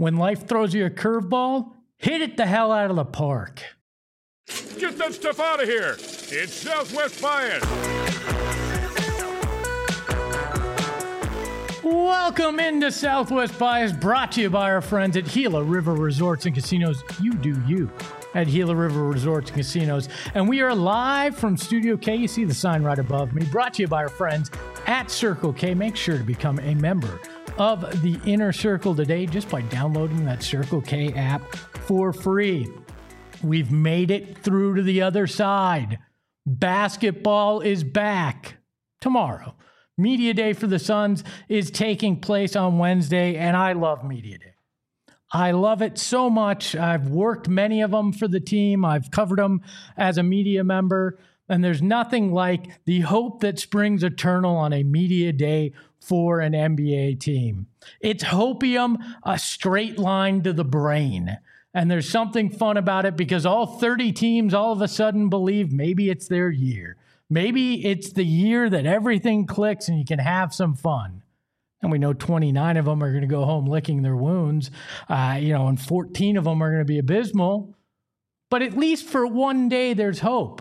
When life throws you a curveball, hit it the hell out of the park. Get that stuff out of here. It's Southwest Bias. Welcome into Southwest Bias, brought to you by our friends at Gila River Resorts and Casinos. You do you at Gila River Resorts and Casinos. And we are live from Studio K. You see the sign right above me. Brought to you by our friends at Circle K. Make sure to become a member of the Inner Circle today just by downloading that Circle K app for free. We've made it through to the other side. Basketball is back tomorrow. Media Day for the Suns is taking place on Wednesday, and I love Media Day. I love it so much. I've worked many of them for the team. I've covered them as a media member, and there's nothing like the hope that springs eternal on a Media Day for an NBA team. It's hopium, a straight line to the brain. And there's something fun about it because all 30 teams all of a sudden believe maybe it's their year. Maybe it's the year that everything clicks and you can have some fun. And we know 29 of them are going to go home licking their wounds, and 14 of them are going to be abysmal. But at least for one day, there's hope.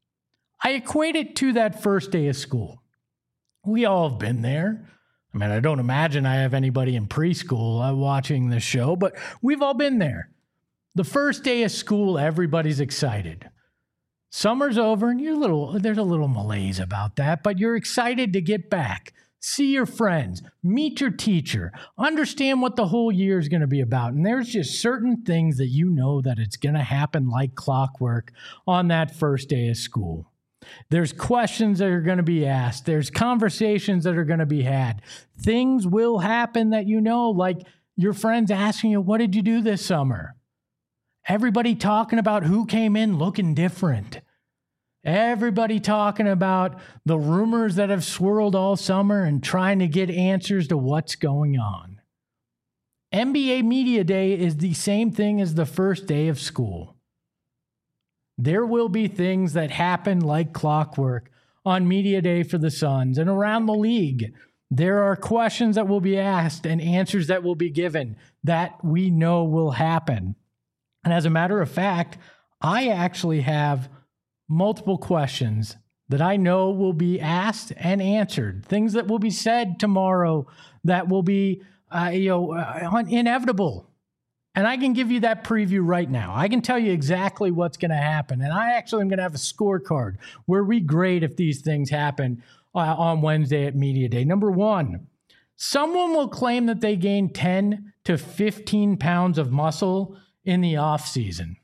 I equate it to that first day of school. We all have been there. I mean, I don't imagine I have anybody in preschool watching this show, but we've all been there. The first day of school, everybody's excited. Summer's over, and there's a little malaise about that, but you're excited to get back, see your friends, meet your teacher, understand what the whole year is going to be about. And there's just certain things that you know that it's going to happen like clockwork on that first day of school. There's questions that are going to be asked. There's conversations that are going to be had. Things will happen that you know, like your friends asking you, what did you do this summer? Everybody talking about who came in looking different. Everybody talking about the rumors that have swirled all summer and trying to get answers to what's going on. NBA Media Day is the same thing as the first day of school. There will be things that happen like clockwork on Media Day for the Suns and around the league. There are questions that will be asked and answers that will be given that we know will happen. And as a matter of fact, I actually have multiple questions that I know will be asked and answered. Things that will be said tomorrow that will be, inevitable. And I can give you that preview right now. I can tell you exactly what's going to happen. And I actually am going to have a scorecard where we grade if these things happen on Wednesday at Media Day. Number one, someone will claim that they gained 10 to 15 pounds of muscle in the off season.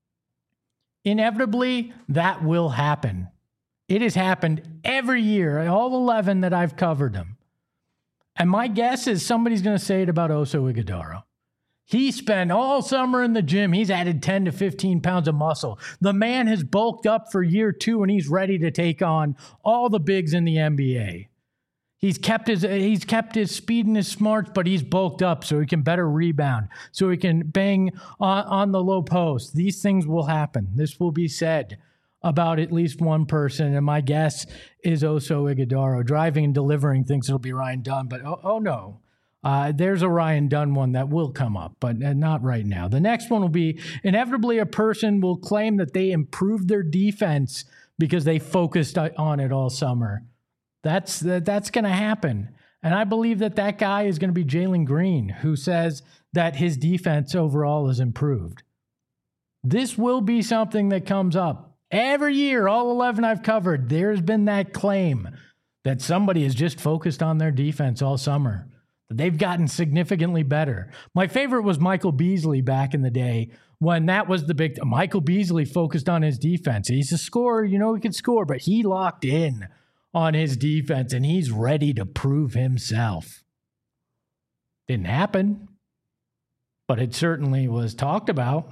Inevitably, that will happen. It has happened every year, all 11 that I've covered them. And my guess is somebody's going to say it about Oso Ighodaro. He spent all summer in the gym. He's added 10 to 15 pounds of muscle. The man has bulked up for year two, and he's ready to take on all the bigs in the NBA. He's kept his speed and his smarts, but he's bulked up so he can better rebound, so he can bang on the low post. These things will happen. This will be said about at least one person, and my guess is Oso Ighodaro. Driving and delivering thinks it'll be Ryan Dunn, but oh no. There's a Ryan Dunn one that will come up, but not right now. The next one will be inevitably a person will claim that they improved their defense because they focused on it all summer. That's going to happen. And I believe that guy is going to be Jalen Green, who says that his defense overall is improved. This will be something that comes up. Every year, all 11 I've covered, there's been that claim that somebody has just focused on their defense all summer. They've gotten significantly better. My favorite was Michael Beasley back in the day when that was the big... Michael Beasley focused on his defense. He's a scorer, he can score, but he locked in on his defense, and he's ready to prove himself. Didn't happen, but it certainly was talked about.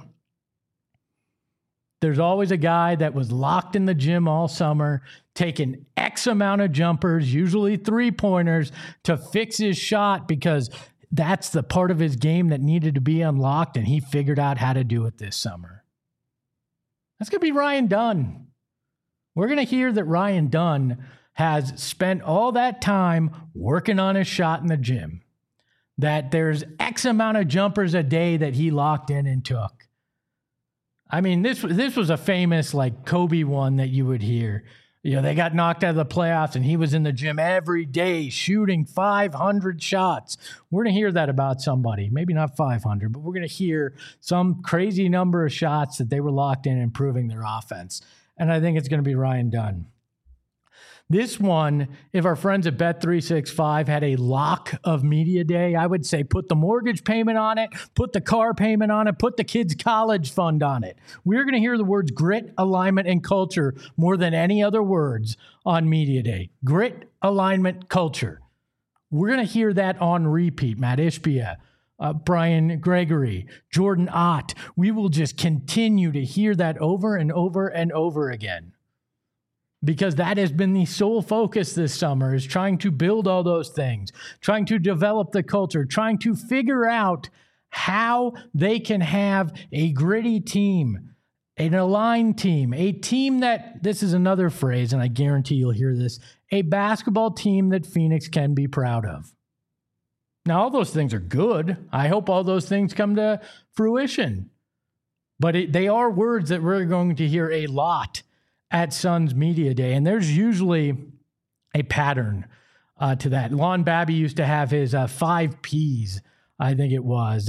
There's always a guy that was locked in the gym all summer, taking X amount of jumpers, usually three-pointers, to fix his shot because that's the part of his game that needed to be unlocked, and he figured out how to do it this summer. That's going to be Ryan Dunn. We're going to hear that Ryan Dunn has spent all that time working on his shot in the gym. that there's X amount of jumpers a day that he locked in and took. I mean, this was a famous like Kobe one that you would hear. They got knocked out of the playoffs and he was in the gym every day shooting 500 shots. We're going to hear that about somebody. Maybe not 500, but we're going to hear some crazy number of shots that they were locked in improving their offense. And I think it's going to be Ryan Dunn. This one, if our friends at Bet365 had a lock of media day, I would say put the mortgage payment on it, put the car payment on it, put the kids' college fund on it. We're going to hear the words grit, alignment, and culture more than any other words on media day. Grit, alignment, culture. We're going to hear that on repeat. Matt Ishbia, Brian Gregory, Jordan Ott. We will just continue to hear that over and over and over again. Because that has been the sole focus this summer, is trying to build all those things, trying to develop the culture, trying to figure out how they can have a gritty team, an aligned team, a team that, this is another phrase, and I guarantee you'll hear this, a basketball team that Phoenix can be proud of. Now, all those things are good. I hope all those things come to fruition. But they are words that we're going to hear a lot at Suns Media Day, and there's usually a pattern to that. Lon Babby used to have his 5 Ps, I think it was,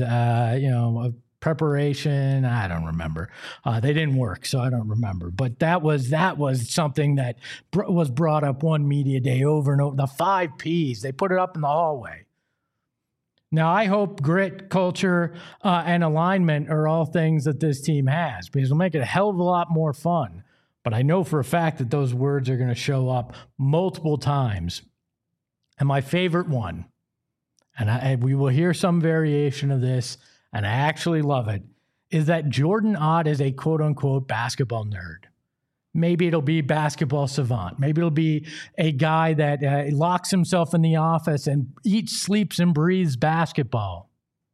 preparation. I don't remember. They didn't work, so I don't remember. But that was something that was brought up one media day over and over. The 5 Ps, they put it up in the hallway. Now, I hope grit, culture, and alignment are all things that this team has, because it'll make it a hell of a lot more fun. But I know for a fact that those words are going to show up multiple times. And my favorite one, and we will hear some variation of this, and I actually love it, is that Jordan Ott is a quote-unquote basketball nerd. Maybe it'll be basketball savant. Maybe it'll be a guy that locks himself in the office and eats, sleeps, and breathes basketball.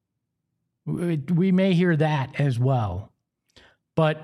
We may hear that as well. But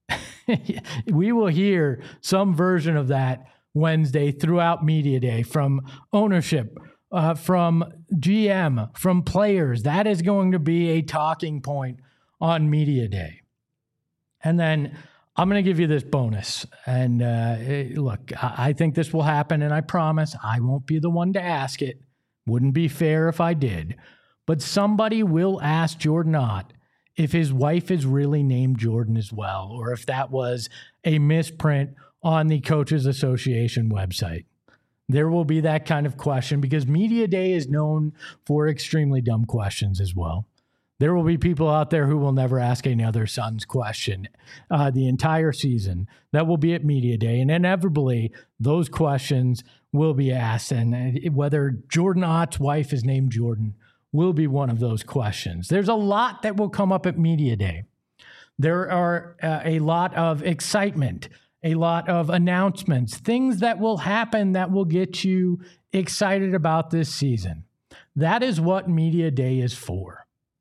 we will hear some version of that Wednesday throughout Media Day from ownership, from GM, from players. That is going to be a talking point on Media Day. And then I'm going to give you this bonus. And look, I think this will happen, and I promise I won't be the one to ask it. Wouldn't be fair if I did. But somebody will ask Jordan Ott if his wife is really named Jordan as well, or if that was a misprint on the Coaches Association website. There will be that kind of question, because Media Day is known for extremely dumb questions as well. There will be people out there who will never ask another Suns question the entire season. That will be at Media Day, and inevitably those questions will be asked, and whether Jordan Ott's wife is named Jordan will be one of those questions. There's a lot that will come up at Media Day. There are a lot of excitement, a lot of announcements, things that will happen that will get you excited about this season. That is what Media Day is for.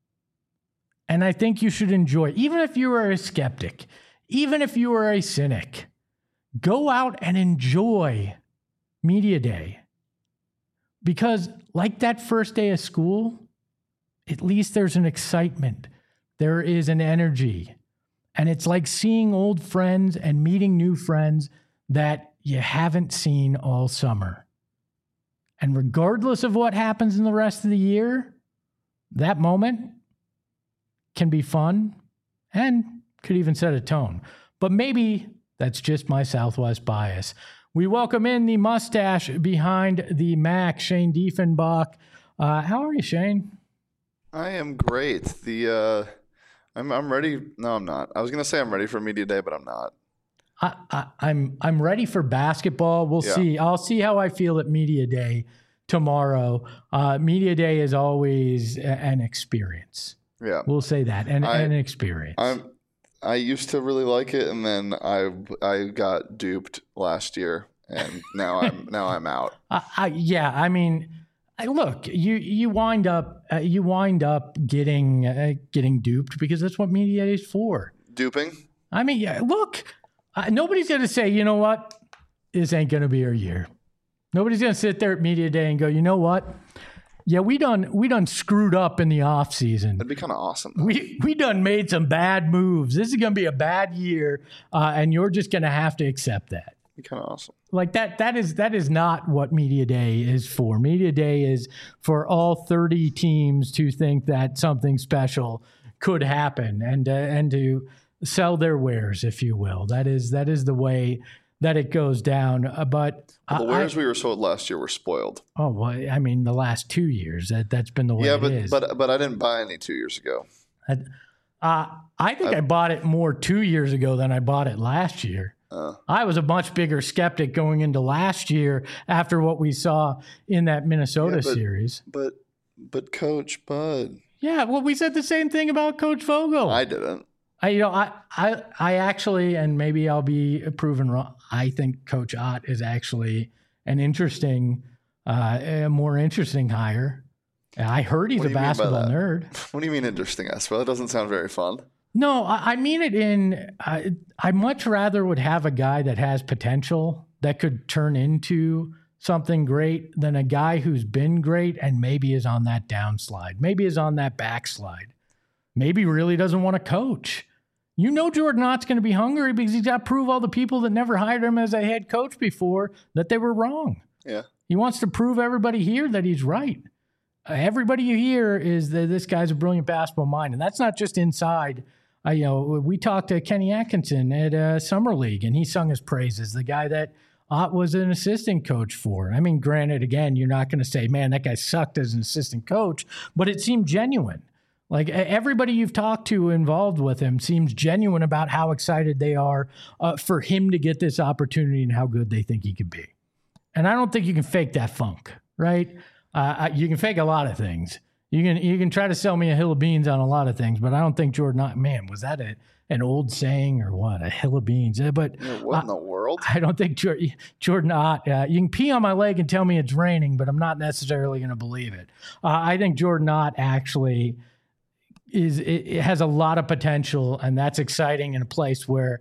And I think you should enjoy, even if you are a skeptic, even if you are a cynic, go out and enjoy Media Day. Because like that first day of school, at least there's an excitement. There is an energy. And it's like seeing old friends and meeting new friends that you haven't seen all summer. And regardless of what happens in the rest of the year, that moment can be fun and could even set a tone. But maybe that's just my Southwest bias. We welcome in the mustache behind the Mac, Shane Diefenbach. How are you, Shane? I am great. I'm ready. No, I'm not. I was gonna say I'm ready for Media Day, but I'm not. I'm ready for basketball. We'll see. I'll see how I feel at Media Day tomorrow. Media Day is always an experience. Yeah, we'll say that, and an experience. I used to really like it, and then I got duped last year, and now I'm out. Yeah, I mean, look, you wind up getting duped, because that's what Media Day is for. Duping. I mean, yeah, look, nobody's going to say, you know what, this ain't going to be our year. Nobody's going to sit there at Media Day and go, you know what, Yeah, we done screwed up in the off season. That'd be kind of awesome. Though. We done made some bad moves. This is going to be a bad year, and you're just going to have to accept that. That'd be kind of awesome. Like that is not what Media Day is for. Media Day is for all 30 teams to think that something special could happen and to sell their wares, if you will. That is the way that it goes down. But the wares we were sold last year were spoiled. Oh, well, I mean, the last 2 years, that's been the way it is. But I didn't buy any 2 years ago. I think I bought it more 2 years ago than I bought it last year. I was a much bigger skeptic going into last year after what we saw in that Minnesota series. But Coach Bud. Yeah, well, we said the same thing about Coach Vogel. I didn't. I actually, and maybe I'll be proven wrong, I think Coach Ott is actually an interesting, a more interesting hire. I heard he's a basketball nerd. What do you mean interesting, Espo? That doesn't sound very fun. No, I mean it I much rather would have a guy that has potential that could turn into something great than a guy who's been great and maybe is on that downslide, maybe is on that backslide, maybe really doesn't want to coach. You know Jordan Ott's going to be hungry because he's got to prove all the people that never hired him as a head coach before that they were wrong. Yeah. He wants to prove everybody here that he's right. Everybody you hear is that this guy's a brilliant basketball mind, and that's not just inside. We talked to Kenny Atkinson at Summer League, and he sung his praises, the guy that Ott was an assistant coach for. I mean, granted, again, you're not going to say, man, that guy sucked as an assistant coach, but it seemed genuine. Like everybody you've talked to involved with him seems genuine about how excited they are for him to get this opportunity and how good they think he could be. And I don't think you can fake that funk, right? You can fake a lot of things. You can try to sell me a hill of beans on a lot of things, but I don't think Jordan Ott, man, was that an old saying or what? A hill of beans. But what in the world? I don't think Jordan Ott, you can pee on my leg and tell me it's raining, but I'm not necessarily going to believe it. I think Jordan Ott actually it has a lot of potential, and that's exciting in a place where,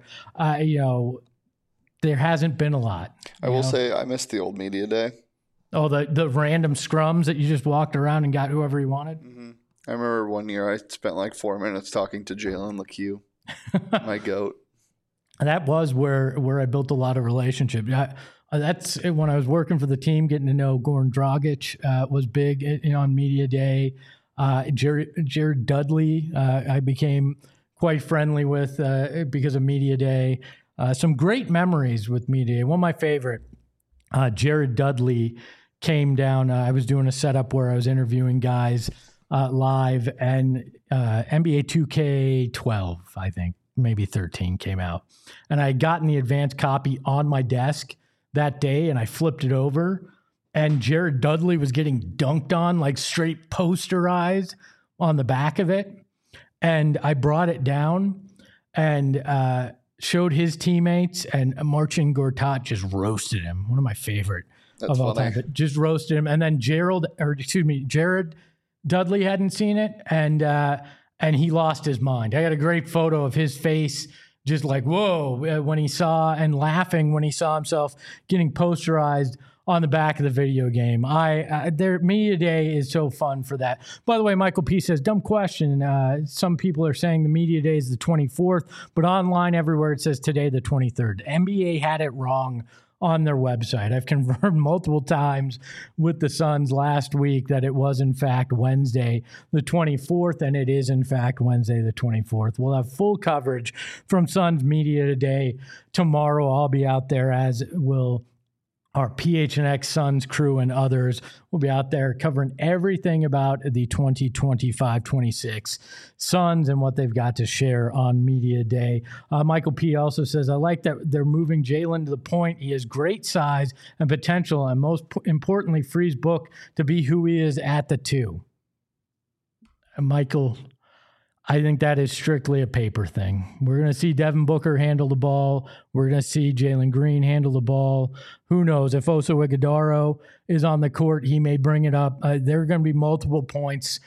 there hasn't been a lot. I will say I missed the old Media Day. Oh, the random scrums that you just walked around and got whoever you wanted? Mm-hmm. I remember one year I spent like 4 minutes talking to Jalen LeCue, my goat. That was where I built a lot of relationships. That's when I was working for the team, getting to know Goran Dragic was big on Media Day. Jared Dudley I became quite friendly with because of Media Day. Some great memories with Media Day. One of my favorite, Jared Dudley came down. I was doing a setup where I was interviewing guys live, and NBA 2K12, I think, maybe 13 came out. And I had gotten the advanced copy on my desk that day, and I flipped it over, and Jared Dudley was getting dunked on, like straight posterized on the back of it. And I brought it down and showed his teammates, and Marcin Gortat just roasted him. One of my favorite of all time, but just roasted him. And then Jared Dudley hadn't seen it, and he lost his mind. I got a great photo of his face, just like, whoa, when he saw, and laughing when he saw himself getting posterized on the back of the video game. Their Media Day is so fun for that. By the way, Michael P. says, dumb question. Some people are saying the Media Day is the 24th, but online everywhere it says today the 23rd. NBA had it wrong on their website. I've confirmed multiple times with the Suns last week that it was in fact Wednesday the 24th, and it is in fact Wednesday the 24th. We'll have full coverage from Suns Media Day tomorrow. I'll be out there, as will our PHNX Suns crew and others. Will be out there covering everything about the 2025-26 Suns and what they've got to share on Media Day. Michael P. also says, I like that they're moving Jalen to the point. He has great size and potential, and most importantly, frees Book to be who he is at the 2. And Michael, I think that is strictly a paper thing. We're going to see Devin Booker handle the ball. We're going to see Jalen Green handle the ball. Who knows? If Oso Ighodaro is on the court, he may bring it up. There are going to be multiple points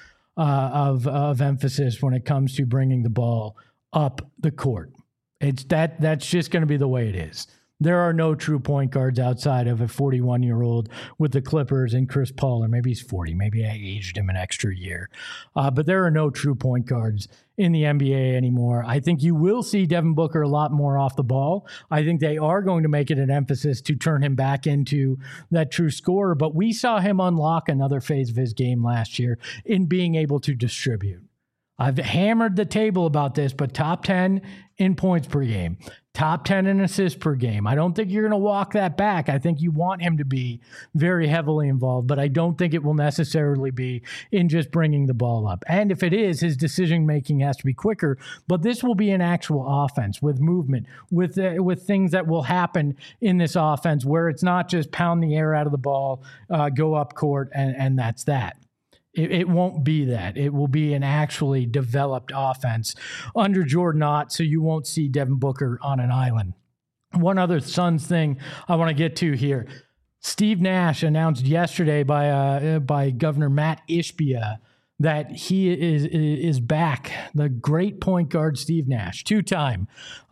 of emphasis when it comes to bringing the ball up the court. That's just going to be the way it is. There are no true point guards outside of a 41-year-old with the Clippers and Chris Paul, or maybe he's 40. Maybe I aged him an extra year. But there are no true point guards in the NBA anymore. I think you will see Devin Booker a lot more off the ball. I think they are going to make it an emphasis to turn him back into that true scorer. But we saw him unlock another phase of his game last year in being able to distribute. I've hammered the table about this, but top 10 in points per game, top 10 in assists per game. I don't think you're going to walk that back. I think you want him to be very heavily involved, but I don't think it will necessarily be in just bringing the ball up. And if it is, his decision-making has to be quicker, but this will be an actual offense with movement, with things that will happen in this offense where it's not just pound the air out of the ball, go up court, and that's that. It won't be that. It will be an actually developed offense under Jordan Ott, so you won't see Devin Booker on an island. One other Suns thing I want to get to here. Steve Nash announced yesterday by Governor Matt Ishbia that he is back. The great point guard Steve Nash, the two-time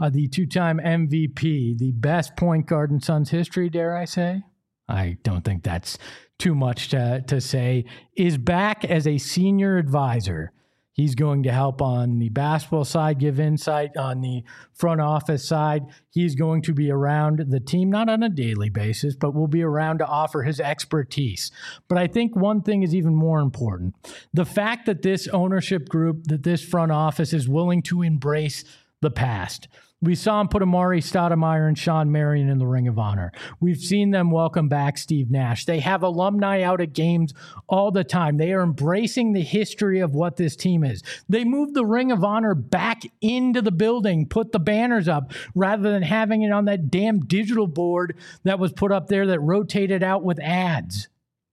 MVP, the best point guard in Suns history, dare I say? I don't think that's too much to say, is back as a senior advisor. He's going to help on the basketball side, give insight on the front office side. He's going to be around the team, not on a daily basis, but will be around to offer his expertise. But I think one thing is even more important. The fact that this ownership group, that this front office is willing to embrace the past. We saw him put Amari Stoudemire and Sean Marion in the Ring of Honor. We've seen them welcome back Steve Nash. They have alumni out at games all the time. They are embracing the history of what this team is. They moved the Ring of Honor back into the building, put the banners up, rather than having it on that damn digital board that was put up there that rotated out with ads.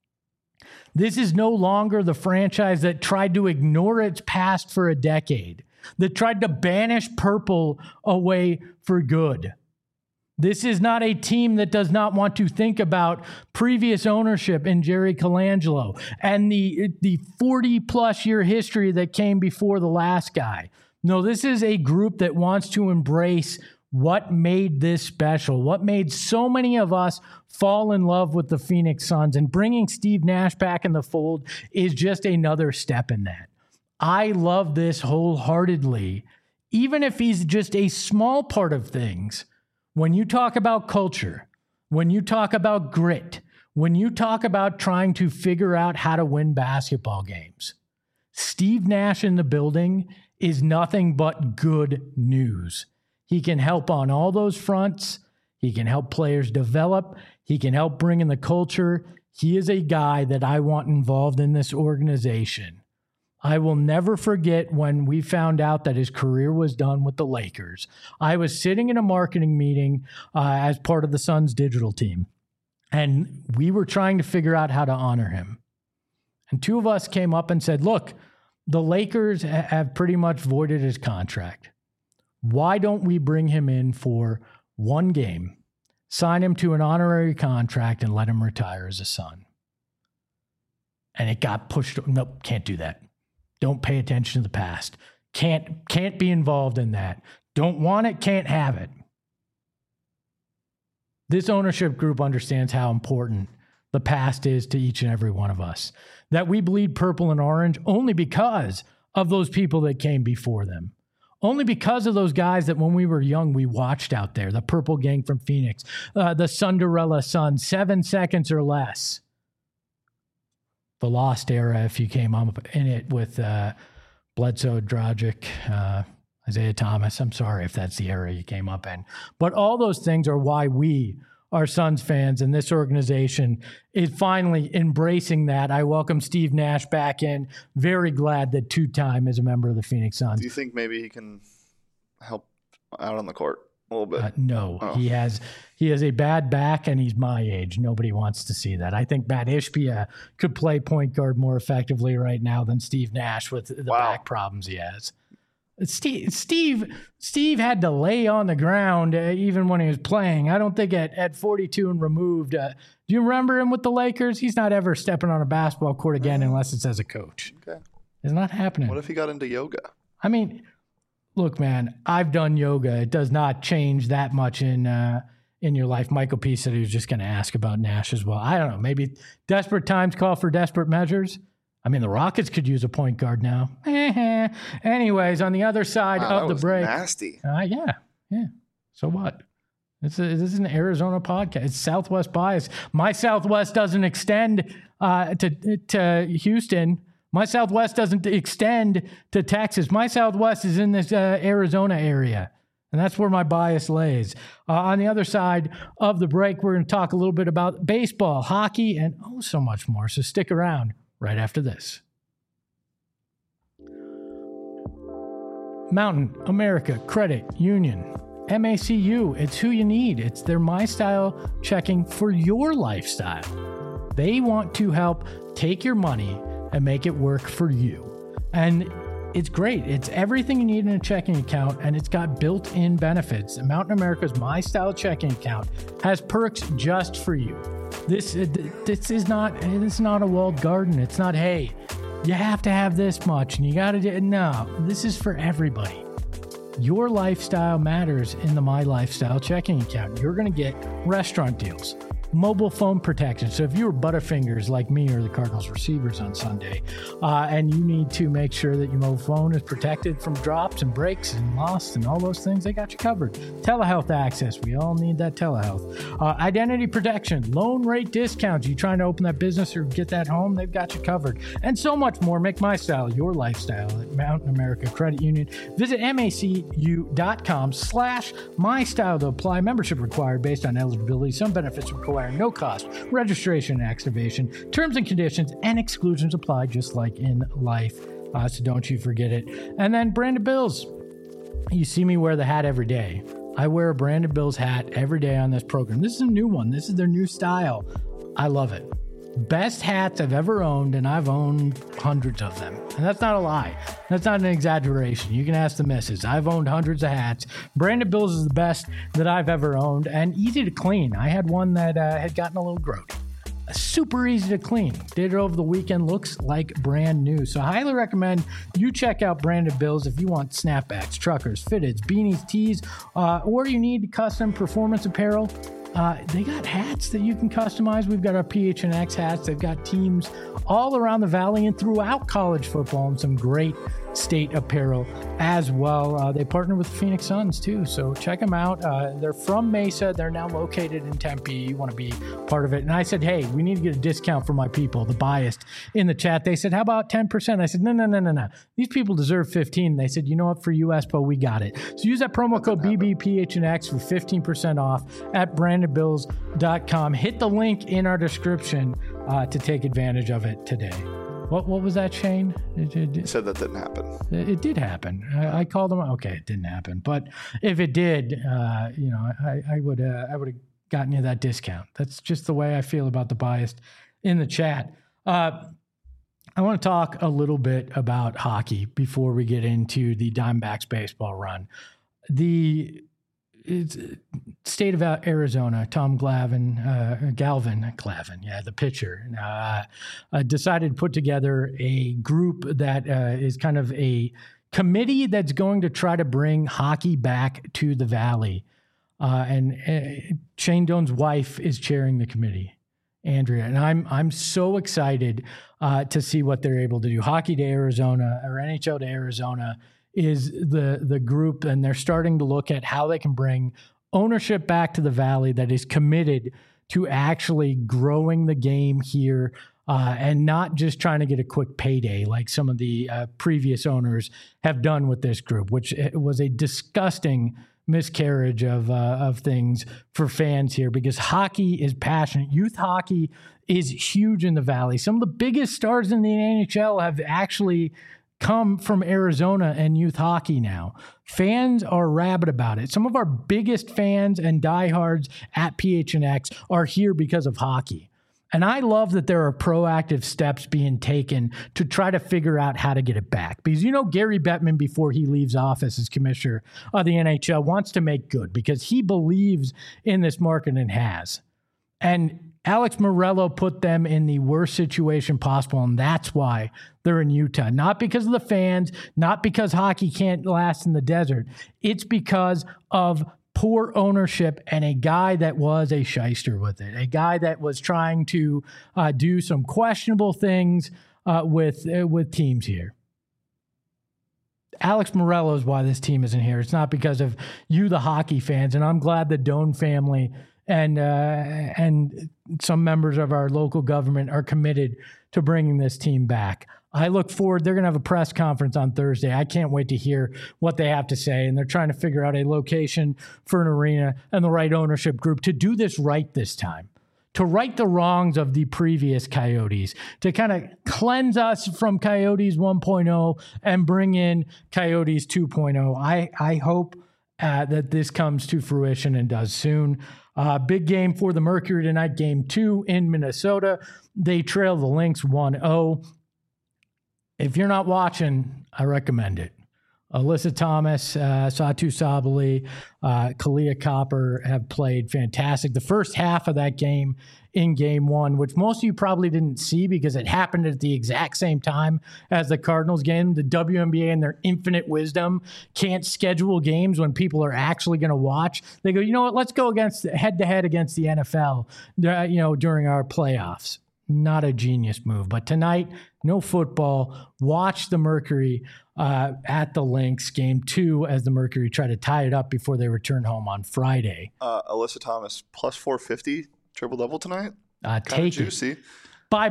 This is no longer the franchise that tried to ignore its past for a decade, that tried to banish purple away for good. This is not a team that does not want to think about previous ownership in Jerry Colangelo and the 40-plus year history that came before the last guy. No, this is a group that wants to embrace what made this special, what made so many of us fall in love with the Phoenix Suns, and bringing Steve Nash back in the fold is just another step in that. I love this wholeheartedly, even if he's just a small part of things. When you talk about culture, when you talk about grit, when you talk about trying to figure out how to win basketball games, Steve Nash in the building is nothing but good news. He can help on all those fronts. He can help players develop. He can help bring in the culture. He is a guy that I want involved in this organization. I will never forget when we found out that his career was done with the Lakers. I was sitting in a marketing meeting as part of the Suns digital team, and we were trying to figure out how to honor him. And two of us came up and said, look, the Lakers have pretty much voided his contract. Why don't we bring him in for one game, sign him to an honorary contract, and let him retire as a Sun? And it got pushed. Nope, can't do that. Don't pay attention to the past. Can't be involved in that. Don't want it, can't have it. This ownership group understands how important the past is to each and every one of us. That we bleed purple and orange only because of those people that came before them. Only because of those guys that when we were young, we watched out there. The Purple Gang from Phoenix, the Cinderella Suns, 7 seconds or less. The Lost Era, if you came up in it with Bledsoe, Dragic, Isaiah Thomas. I'm sorry if that's the era you came up in. But all those things are why we are Suns fans, and this organization is finally embracing that. I welcome Steve Nash back in. Very glad that two-time is a member of the Phoenix Suns. Do you think maybe he can help out on the court a little bit? No. Oh. He has a bad back, and he's my age. Nobody wants to see that. I think Matt Ishbia could play point guard more effectively right now than Steve Nash with the back problems he has. Steve had to lay on the ground even when he was playing. I don't think at 42 and removed. Do you remember him with the Lakers? He's not ever stepping on a basketball court again unless it's as a coach. Okay. It's not happening. What if he got into yoga? I mean, look, man, I've done yoga. It does not change that much in in your life. Michael P. said he was just going to ask about Nash as well. I don't know. Maybe desperate times call for desperate measures. I mean, the Rockets could use a point guard now. Anyways, on the other side of the break. Nasty. Yeah. So what? This is an Arizona podcast. It's Southwest bias. My Southwest doesn't extend to Houston. My Southwest doesn't extend to Texas. My Southwest is in this Arizona area. And that's where my bias lays. On the other side of the break, we're going to talk a little bit about baseball, hockey, and so much more. So stick around right after this. Mountain America Credit Union. MACU, it's who you need. It's their My Style checking for your lifestyle. They want to help take your money and make it work for you. And it's great. It's everything you need in a checking account, and it's got built-in benefits. Mountain America's My Style checking account has perks just for you. This is not a walled garden. It's not, hey, you have to have this much and you got to do. No, this is for everybody. Your lifestyle matters in the My Lifestyle checking account. You're going to get restaurant deals, mobile phone protection. So if you were Butterfingers like me or the Cardinals receivers on Sunday, and you need to make sure that your mobile phone is protected from drops and breaks and lost and all those things, they got you covered. Telehealth access. We all need that telehealth. Identity protection, loan rate discounts. You trying to open that business or get that home, they've got you covered. And so much more. Make My Style your lifestyle at Mountain America Credit Union. Visit macu.com/mystyle to apply. Membership required based on eligibility. Some benefits require no cost, registration and activation, terms and conditions and exclusions apply just like in life. So don't you forget it. And then Branded Bills. You see me wear the hat every day. I wear a Branded Bills hat every day on this program. This is a new one. This is their new style. I love it. Best hats I've ever owned, and I've owned hundreds of them. And that's not a lie. That's not an exaggeration. You can ask the missus. I've owned hundreds of hats. Branded Bills is the best that I've ever owned, and easy to clean. I had one that had gotten a little grody. Super easy to clean. Did it over the weekend. Looks like brand new. So I highly recommend you check out Branded Bills if you want snapbacks, truckers, fitteds, beanies, tees, or you need custom performance apparel. They got hats that you can customize. We've got our PHNX hats. They've got teams all around the valley and throughout college football and some great state apparel as well. They partner with the Phoenix Suns too, so check them out. They're from Mesa. They're now located in Tempe. You want to be part of it. And I said, hey, we need to get a discount for my people, the biased in the chat. They said, how about 10%? I said, no. These people deserve 15. They said, you know what, for you, Espo, we got it. So use that promo code BBPHNX for 15% off at brandedbills.com. Hit the link in our description to take advantage of it today. What was that, Shane? You said that didn't happen. It did happen. I called them. Okay, it didn't happen. But if it did, I would have gotten you that discount. That's just the way I feel about the biased in the chat. I want to talk a little bit about hockey before we get into the Diamondbacks baseball run. The state of Arizona, Tom Galvin, the pitcher, decided to put together a group that is kind of a committee that's going to try to bring hockey back to the Valley. And Shane Doan's wife is chairing the committee, Andrea, and I'm so excited to see what they're able to do. Hockey to Arizona, or NHL to Arizona, is the group, and they're starting to look at how they can bring ownership back to the Valley that is committed to actually growing the game here and not just trying to get a quick payday like some of the previous owners have done with this group, which was a disgusting miscarriage of things for fans here, because hockey is passionate. Youth hockey is huge in the Valley. Some of the biggest stars in the NHL have actually come from Arizona and youth hockey now. Fans are rabid about it. Some of our biggest fans and diehards at PHNX are here because of hockey. And I love that there are proactive steps being taken to try to figure out how to get it back. Because, Gary Bettman, before he leaves office as commissioner of the NHL, wants to make good because he believes in this market and has. And Alex Morello put them in the worst situation possible, and that's why they're in Utah. Not because of the fans, not because hockey can't last in the desert. It's because of poor ownership and a guy that was a shyster with it, a guy that was trying to do some questionable things with teams here. Alex Morello is why this team isn't here. It's not because of you, the hockey fans, and I'm glad the Doan family and some members of our local government are committed to bringing this team back. I look forward. They're going to have a press conference on Thursday. I can't wait to hear what they have to say. And they're trying to figure out a location for an arena and the right ownership group to do this right this time, to right the wrongs of the previous Coyotes, to kind of cleanse us from Coyotes 1.0 and bring in Coyotes 2.0. I hope that this comes to fruition and does soon. Big game for the Mercury tonight, game 2 in Minnesota. They trail the Lynx 1-0. If you're not watching, I recommend it. Alyssa Thomas, Satu Sabali, Kalia Copper have played fantastic. The first half of that game in game 1, which most of you probably didn't see because it happened at the exact same time as the Cardinals game. The WNBA, in their infinite wisdom, can't schedule games when people are actually going to watch. They go, you know what? Let's go against head-to-head against the NFL, during our playoffs. Not a genius move. But tonight, no football. Watch the Mercury at the Lynx, game 2, as the Mercury try to tie it up before they return home on Friday. Alyssa Thomas, plus 450, triple-double tonight. Take juicy. It. Bye.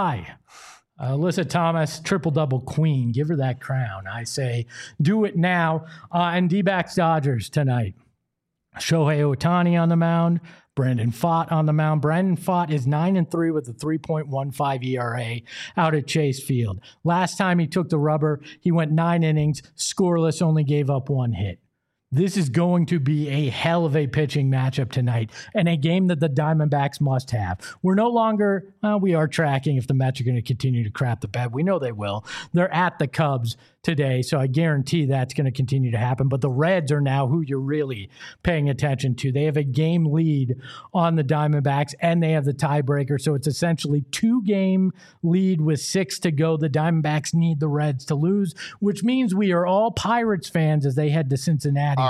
Alyssa Thomas, triple-double queen. Give her that crown. I say do it now. And D-backs Dodgers tonight. Shohei Ohtani on the mound. Brandon Pfaadt on the mound. Brandon Pfaadt is 9-3 with a 3.15 ERA out at Chase Field. Last time he took the rubber, he went 9 innings, scoreless, only gave up 1 hit. This is going to be a hell of a pitching matchup tonight and a game that the Diamondbacks must have. We're no longer, we are tracking if the Mets are going to continue to crap the bed. We know they will. They're at the Cubs today, so I guarantee that's going to continue to happen. But the Reds are now who you're really paying attention to. They have a game lead on the Diamondbacks, and they have the tiebreaker, so it's essentially 2-game lead with 6 to go. The Diamondbacks need the Reds to lose, which means we are all Pirates fans as they head to Cincinnati.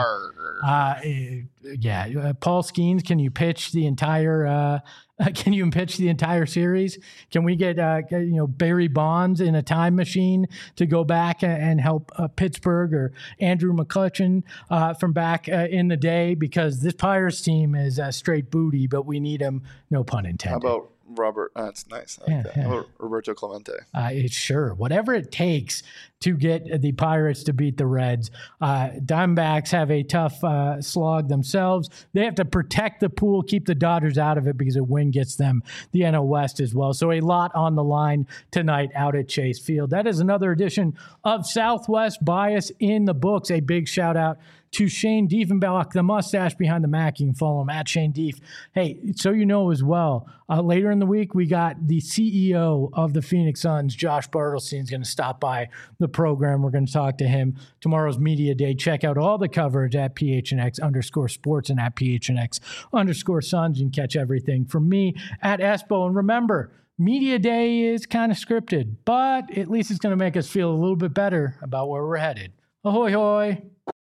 Paul Skeens, can you pitch the entire series? Can we get Barry Bonds in a time machine to go back and help Pittsburgh, or Andrew McCutchen from back in the day? Because this Pirates team is straight booty, but we need him. No pun intended. How about Robert? That's nice. I like that. How about Roberto Clemente? Sure. Whatever it takes to get the Pirates to beat the Reds. Diamondbacks have a tough slog themselves. They have to protect the pool, keep the Dodgers out of it, because a win gets them the NL West as well. So a lot on the line tonight out at Chase Field. That is another edition of Southwest Bias in the books. A big shout out to Shane Diefenbach, the mustache behind the Mac. You can follow him at Shane Dief. Hey, so you know as well, later in the week, we got the CEO of the Phoenix Suns, Josh Bartelstein, is going to stop by the program. We're going to talk to him tomorrow's media day. Check out all the coverage at PHNX_sports and at PHNX_Suns. You can catch everything from me at Espo. And remember, media day is kind of scripted, but at least it's going to make us feel a little bit better about where we're headed. Ahoy, hoy.